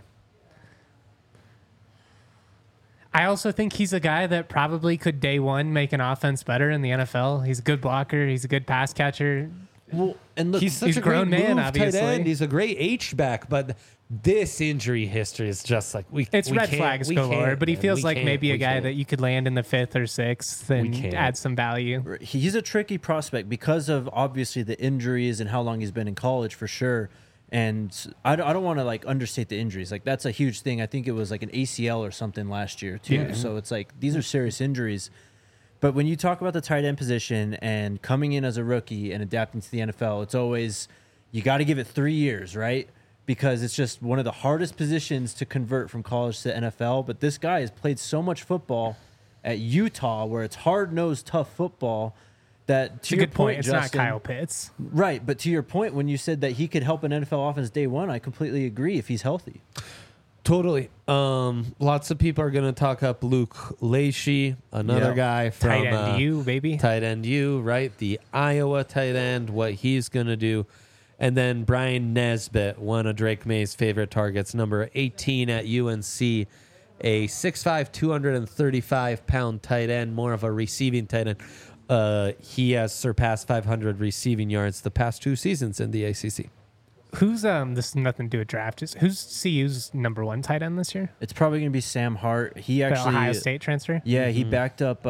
I also think he's a guy that probably could day one make an offense better in the NFL. He's a good blocker. He's a good pass catcher. Well, and look, He's He's such a a great grown man, move tight obviously. end. He's a great H-back, but this injury history is just like It's we red can't- flags we galore, can't, but he man. feels We like can't, maybe a we guy can't. that you could land in the 5th or 6th and can't. add some value. he's a tricky prospect because of obviously the injuries and how long he's been in college for sure. And I don't want to like understate the injuries. Like that's a huge thing. I think it was like an ACL or something last year too. Yeah. So it's like these are serious injuries. But when you talk about the tight end position and coming in as a rookie and adapting to the NFL, it's always you got to give it 3 years, right? Because it's just one of the hardest positions to convert from college to NFL. But this guy has played so much football at Utah where it's hard-nosed, tough football that It's to a your good point. It's Justin, not Kyle Pitts. Right, but to your point, when you said that he could help an NFL offense day one, I completely agree if he's healthy. Totally. Lots of people are going to talk up Luke Lachey, another Yeah. guy from Tight end U, baby. Tight end U, right? The Iowa tight end, what he's going to do. And then Brian Nesbitt, one of Drake May's favorite targets, number 18 at UNC, a 6'5", 235-pound tight end, more of a receiving tight end. He has surpassed 500 receiving yards the past 2 seasons in the ACC. Who's this has nothing to do with draft. Who's CU's number 1 tight end this year? It's probably going to be Sam Hart. He The actually, Ohio State transfer. yeah, he backed up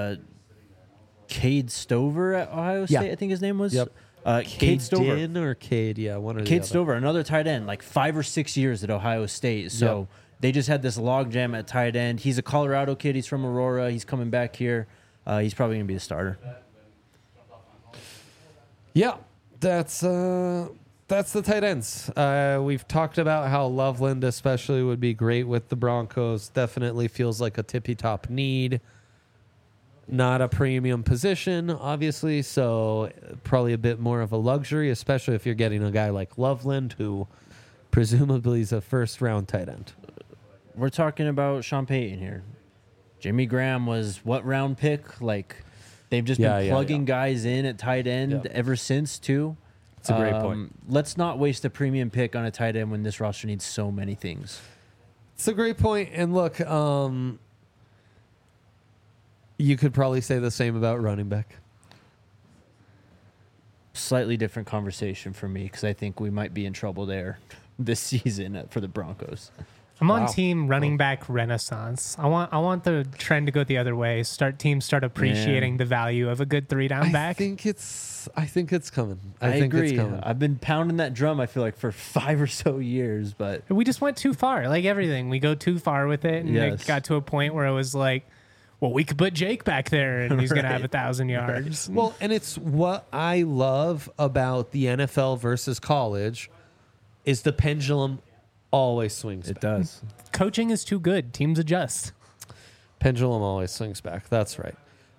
Cade Stover at Ohio Yeah. State. I think his name was. Yep. Cade Stover. Din or Cade, yeah, one or the Cade other. Stover, another tight end, like 5 or 6 years at Ohio State. So Yep. they just had this logjam at tight end. He's a Colorado kid. He's from Aurora. He's coming back here. He's probably going to be the starter. Yeah, that's the tight ends. We've talked about how Loveland especially would be great with the Broncos. Definitely feels like a tippy-top need. Not a premium position, obviously, so probably a bit more of a luxury, especially if you're getting a guy like Loveland, who presumably is a first-round tight end. We're talking about Sean Payton here. Jimmy Graham was what round pick? Like they've just been plugging guys in at tight end ever since too. It's a great point. Let's not waste a premium pick on a tight end when this roster needs so many things. It's a great point. And look, you could probably say the same about running back. Slightly different conversation for me because I think we might be in trouble there this season for the Broncos. I'm on Wow. team running back renaissance. I want the trend to go the other way. Teams start appreciating the value of a good 3-down back. I think it's coming. I think agree. it's coming. I've been pounding that drum, I feel like, for 5 or so years, but We just went too far. Like everything, we go too far with it, and Yes. it got to a point where it was like, well, we could put Jake back there, and he's gonna have 1,000 yards. Well, and it's what I love about the NFL versus college is the pendulum always swings it back. does. Coaching is too good. Teams adjust. Pendulum always swings back. That's right.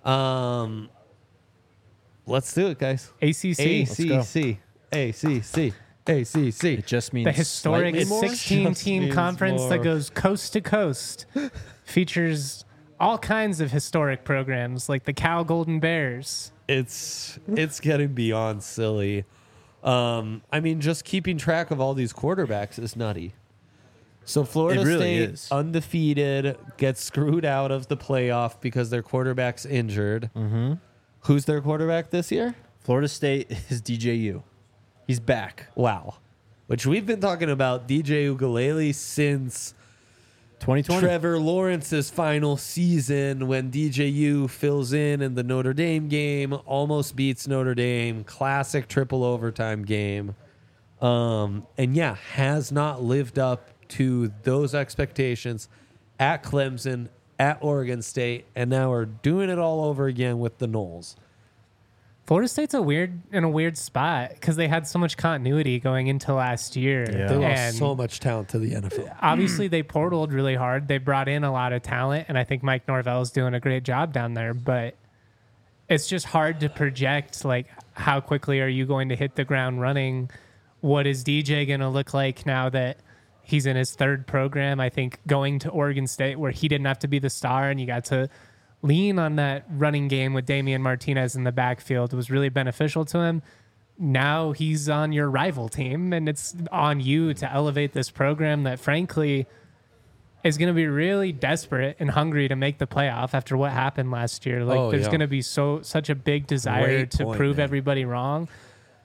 Let's do it, guys. ACC, ACC. ACC. ACC. It just means the historic slightly more. 16-team means conference more. that goes coast to coast, features all kinds of historic programs like the Cal Golden Bears. It's getting beyond silly. I mean, just keeping track of all these quarterbacks is nutty. So Florida It really State, is. undefeated, gets screwed out of the playoff because their quarterback's injured. Mm-hmm. Who's their quarterback this year? Florida State is DJU. He's back. Wow. Which we've been talking about DJ Ugalele since 2020. Trevor Lawrence's final season when DJU fills in the Notre Dame game, almost beats Notre Dame, classic triple overtime game. And yeah, has not lived up to those expectations at Clemson, at Oregon State, and now are doing it all over again with the Noles. Florida State's in a weird spot because they had so much continuity going into last year. Yeah. They lost And so much talent to the NFL. obviously they portaled really hard. They brought in a lot of talent, and I think Mike Norvell's doing a great job down there. But it's just hard to project, like, how quickly are you going to hit the ground running? What is DJ going to look like now that he's in his 3rd program? I think going to Oregon State where he didn't have to be the star and you got to lean on that running game with Damian Martinez in the backfield was really beneficial to him. Now he's on your rival team, and it's on you to elevate this program that, frankly, is going to be really desperate and hungry to make the playoff after what happened last year. Like, there's going to be such a big desire Great to point, prove man. everybody wrong.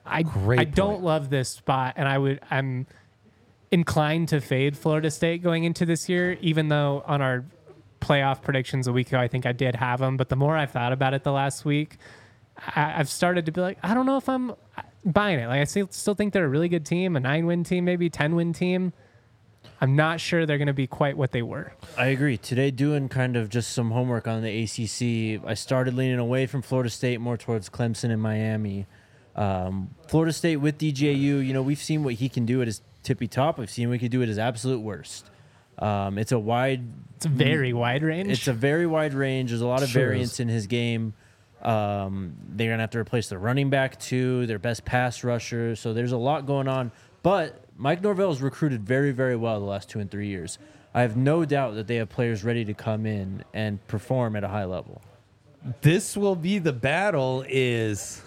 I Great don't point. love this spot, and I'm inclined to fade Florida State going into this year, even though on our playoff predictions a week ago, I think I did have them. But the more I've thought about it the last week, I've started to be like, I don't know if I'm buying it. Like, I still think they're a really good team, a 9-win team, maybe 10-win team. I'm not sure they're going to be quite what they were. I agree. Today, doing kind of just some homework on the ACC, I started leaning away from Florida State more towards Clemson and Miami. Florida State with DJU, we've seen what he can do at his tippy top. We've seen what he can do at his absolute worst. It's a very wide range. It's a very wide range. There's a lot of Sure variance is. in his game. They're going to have to replace their running back, too, their best pass rusher. So there's a lot going on. But Mike Norvell has recruited very, very well the last 2 and 3 years. I have no doubt that they have players ready to come in and perform at a high level. This will be the battle is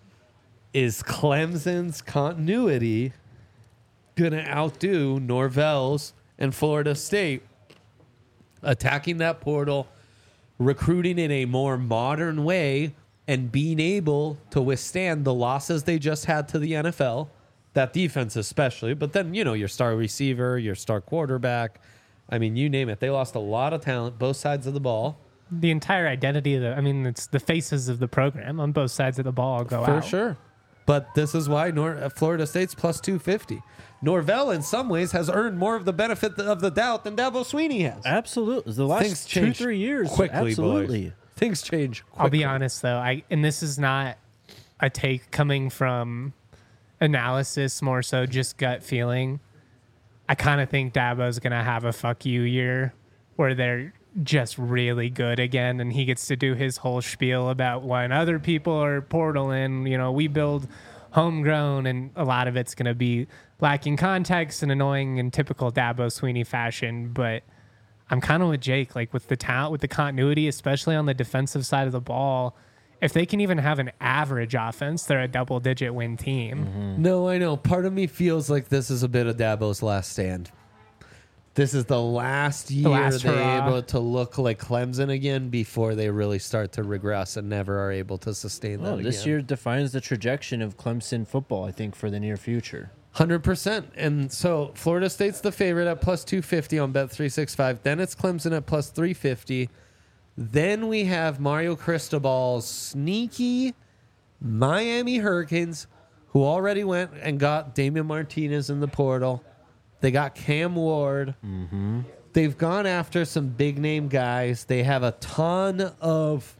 Clemson's continuity going to outdo Norvell's and Florida State attacking that portal, recruiting in a more modern way, and being able to withstand the losses they just had to the NFL, that defense especially, but then, your star receiver, your star quarterback, I mean, you name it. They lost a lot of talent, both sides of the ball. The entire identity of it's the faces of the program on both sides of the ball go out. For sure. But this is why Florida State's plus 250. Norvell, in some ways, has earned more of the benefit of the doubt than Dabo Sweeney has. Absolutely. The last Things change 2-3 years. quickly, Absolutely. boys. Things change quickly. I'll be honest, though. And this is not a take coming from analysis, more so just gut feeling. I kind of think Dabo's going to have a fuck you year where they're just really good again, and he gets to do his whole spiel about when other people are portaling, we build homegrown, and a lot of it's going to be lacking context and annoying in typical Dabo Sweeney fashion. But I'm kind of with Jake, like with the talent, with the continuity, especially on the defensive side of the ball. If they can even have an average offense, they're a double-digit win team. Mm-hmm. No, I know. Part of me feels like this is a bit of Dabo's last stand. This is the last year last they're hurrah. able to look like Clemson again before they really start to regress and never are able to sustain that again. This year defines the trajectory of Clemson football, I think, for the near future. 100%. And so Florida State's the favorite at plus 250 on Bet365. Then it's Clemson at plus 350. Then we have Mario Cristobal's sneaky Miami Hurricanes, who already went and got Damian Martinez in the portal. They got Cam Ward. Mm-hmm. They've gone after some big-name guys. They have a ton of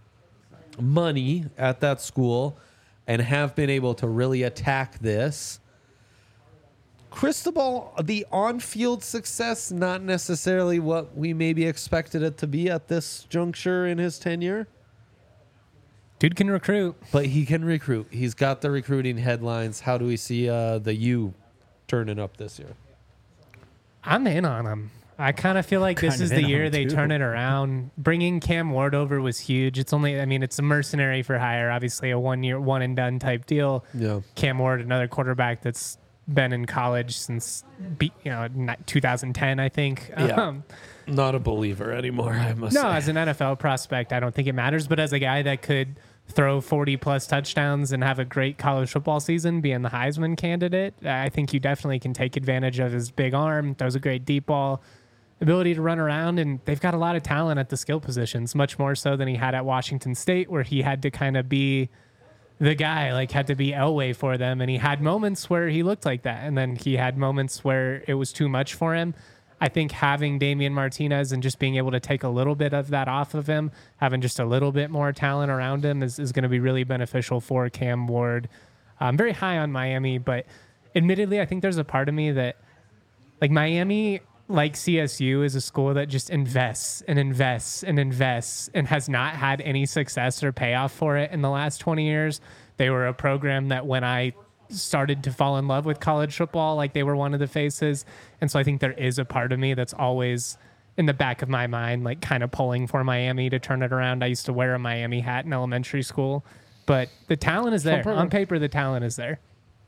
money at that school and have been able to really attack this. Cristobal, the on-field success, not necessarily what we maybe expected it to be at this juncture in his tenure. Dude can recruit. But he can recruit. He's got the recruiting headlines. How do we see the U turning up this year? I'm in on him. I kind of feel like this Kind is of the in year on they too. turn it around. Bringing Cam Ward over was huge. It's only, it's a mercenary for hire, obviously a 1 year, one and done type deal. Yeah. Cam Ward, another quarterback that's been in college since 2010, I think. Yeah. Not a believer anymore, I must No, say. as an NFL prospect, I don't think it matters. But as a guy that could throw 40-plus touchdowns and have a great college football season, being the Heisman candidate, I think you definitely can take advantage of his big arm, throws a great deep ball, ability to run around, and they've got a lot of talent at the skill positions, much more so than he had at Washington State, where he had to kind of be the guy, like had to be Elway for them. And he had moments where he looked like that. And then he had moments where it was too much for him. I think having Damian Martinez and just being able to take a little bit of that off of him, having just a little bit more talent around him is going to be really beneficial for Cam Ward. I'm very high on Miami, but admittedly, I think there's a part of me that, like, Miami, like CSU, is a school that just invests and invests and invests and has not had any success or payoff for it in the last 20 years. They were a program that when I started to fall in love with college football, like, they were one of the faces. And so I think there is a part of me that's always in the back of my mind, like, kind of pulling for Miami to turn it around. I used to wear a Miami hat in elementary school, but the talent is there. On paper, the talent is there.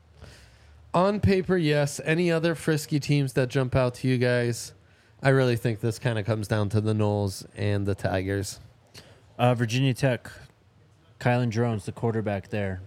On paper, yes. Any other frisky teams that jump out to you guys? I really think this kind of comes down to the Noles and the Tigers. Virginia Tech, Kylan Drones, the quarterback there.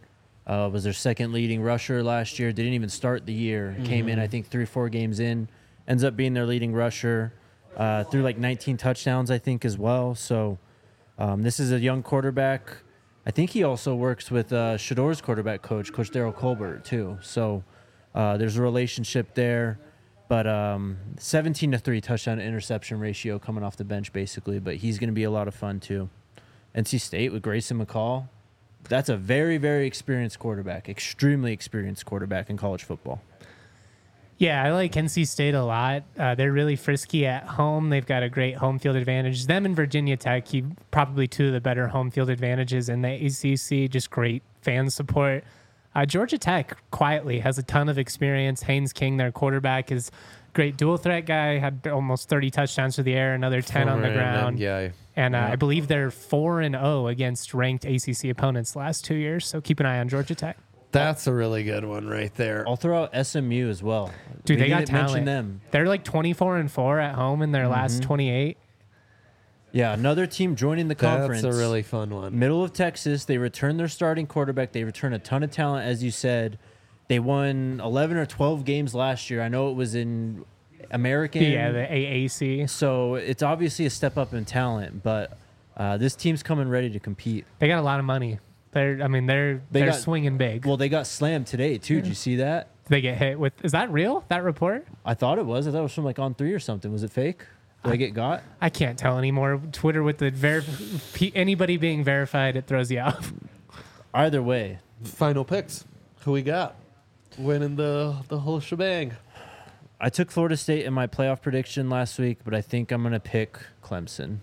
Was their second leading rusher last year. Didn't even start the year. Came in, I think, 3 or 4 games in. Ends up being their leading rusher. Threw like 19 touchdowns, I think, as well. So this is a young quarterback. I think he also works with Shador's quarterback coach Daryl Colbert, too. So there's a relationship there. But 17-3 touchdown to interception ratio coming off the bench, basically. But he's going to be a lot of fun, too. NC State with Grayson McCall. That's a very, very experienced quarterback, extremely experienced quarterback in college football. Yeah, I like NC State a lot. They're really frisky at home. They've got a great home field advantage. Them and Virginia Tech, probably 2 of the better home field advantages in the ACC. Just great fan support. Georgia Tech quietly has a ton of experience. Haynes King, their quarterback, is a great dual threat guy. Had almost 30 touchdowns through the air, another 10 on the ground. And I believe they're 4-0 against ranked ACC opponents the last 2 years. So keep an eye on Georgia Tech. That's a really good one right there. I'll throw out SMU as well. Dude, they got didn't mention talent. them. They're like 24-4 at home in their last 28. Yeah, another team joining the conference. That's a really fun one. Middle of Texas. They return their starting quarterback. They return a ton of talent, as you said. They won 11 or 12 games last year. I know it was in American. Yeah, the AAC. So it's obviously a step up in talent, but this team's coming ready to compete. They got a lot of money. They're got- swinging big. Well, they got slammed today, too. Did you see that? They get hit with. Is that real? That report? I thought it was. I thought it was from like On3 or something. Was it fake? Did I get got? I can't tell anymore. Twitter with the anybody being verified, it throws you off. Either way. Final picks. Who we got? Winning the whole shebang. I took Florida State in my playoff prediction last week, but I think I'm going to pick Clemson.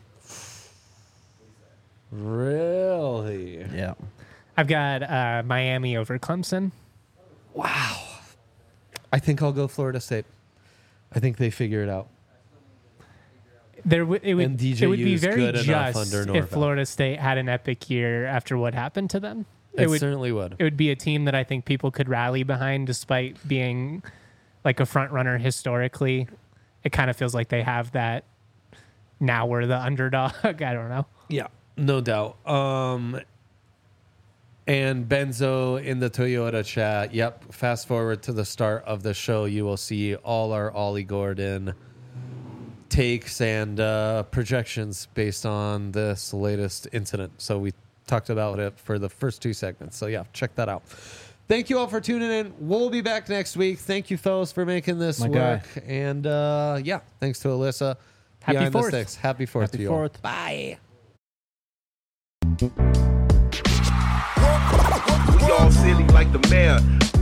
Really? Yeah. I've got Miami over Clemson. Wow. I think I'll go Florida State. I think they figure it out. It would be DJU's very good enough just under if Norvell. Florida State had an epic year after what happened to them. It certainly would. It would be a team that I think people could rally behind despite being like a front runner historically. It kind of feels like they have that. Now we're the underdog. I don't know. Yeah, no doubt. And Benzo in the Toyota chat. Yep. Fast forward to the start of the show. You will see all our Ollie Gordon takes and projections based on this latest incident. So we talked about it for the first 2 segments. So yeah, check that out. Thank you all for tuning in. We'll be back next week. Thank you, fellas, for making this My work. guy. And yeah, thanks to Alyssa. Happy Behind the 4th. Sticks. Happy 4th Happy to you all. 4th. Bye. We all silly like the mayor.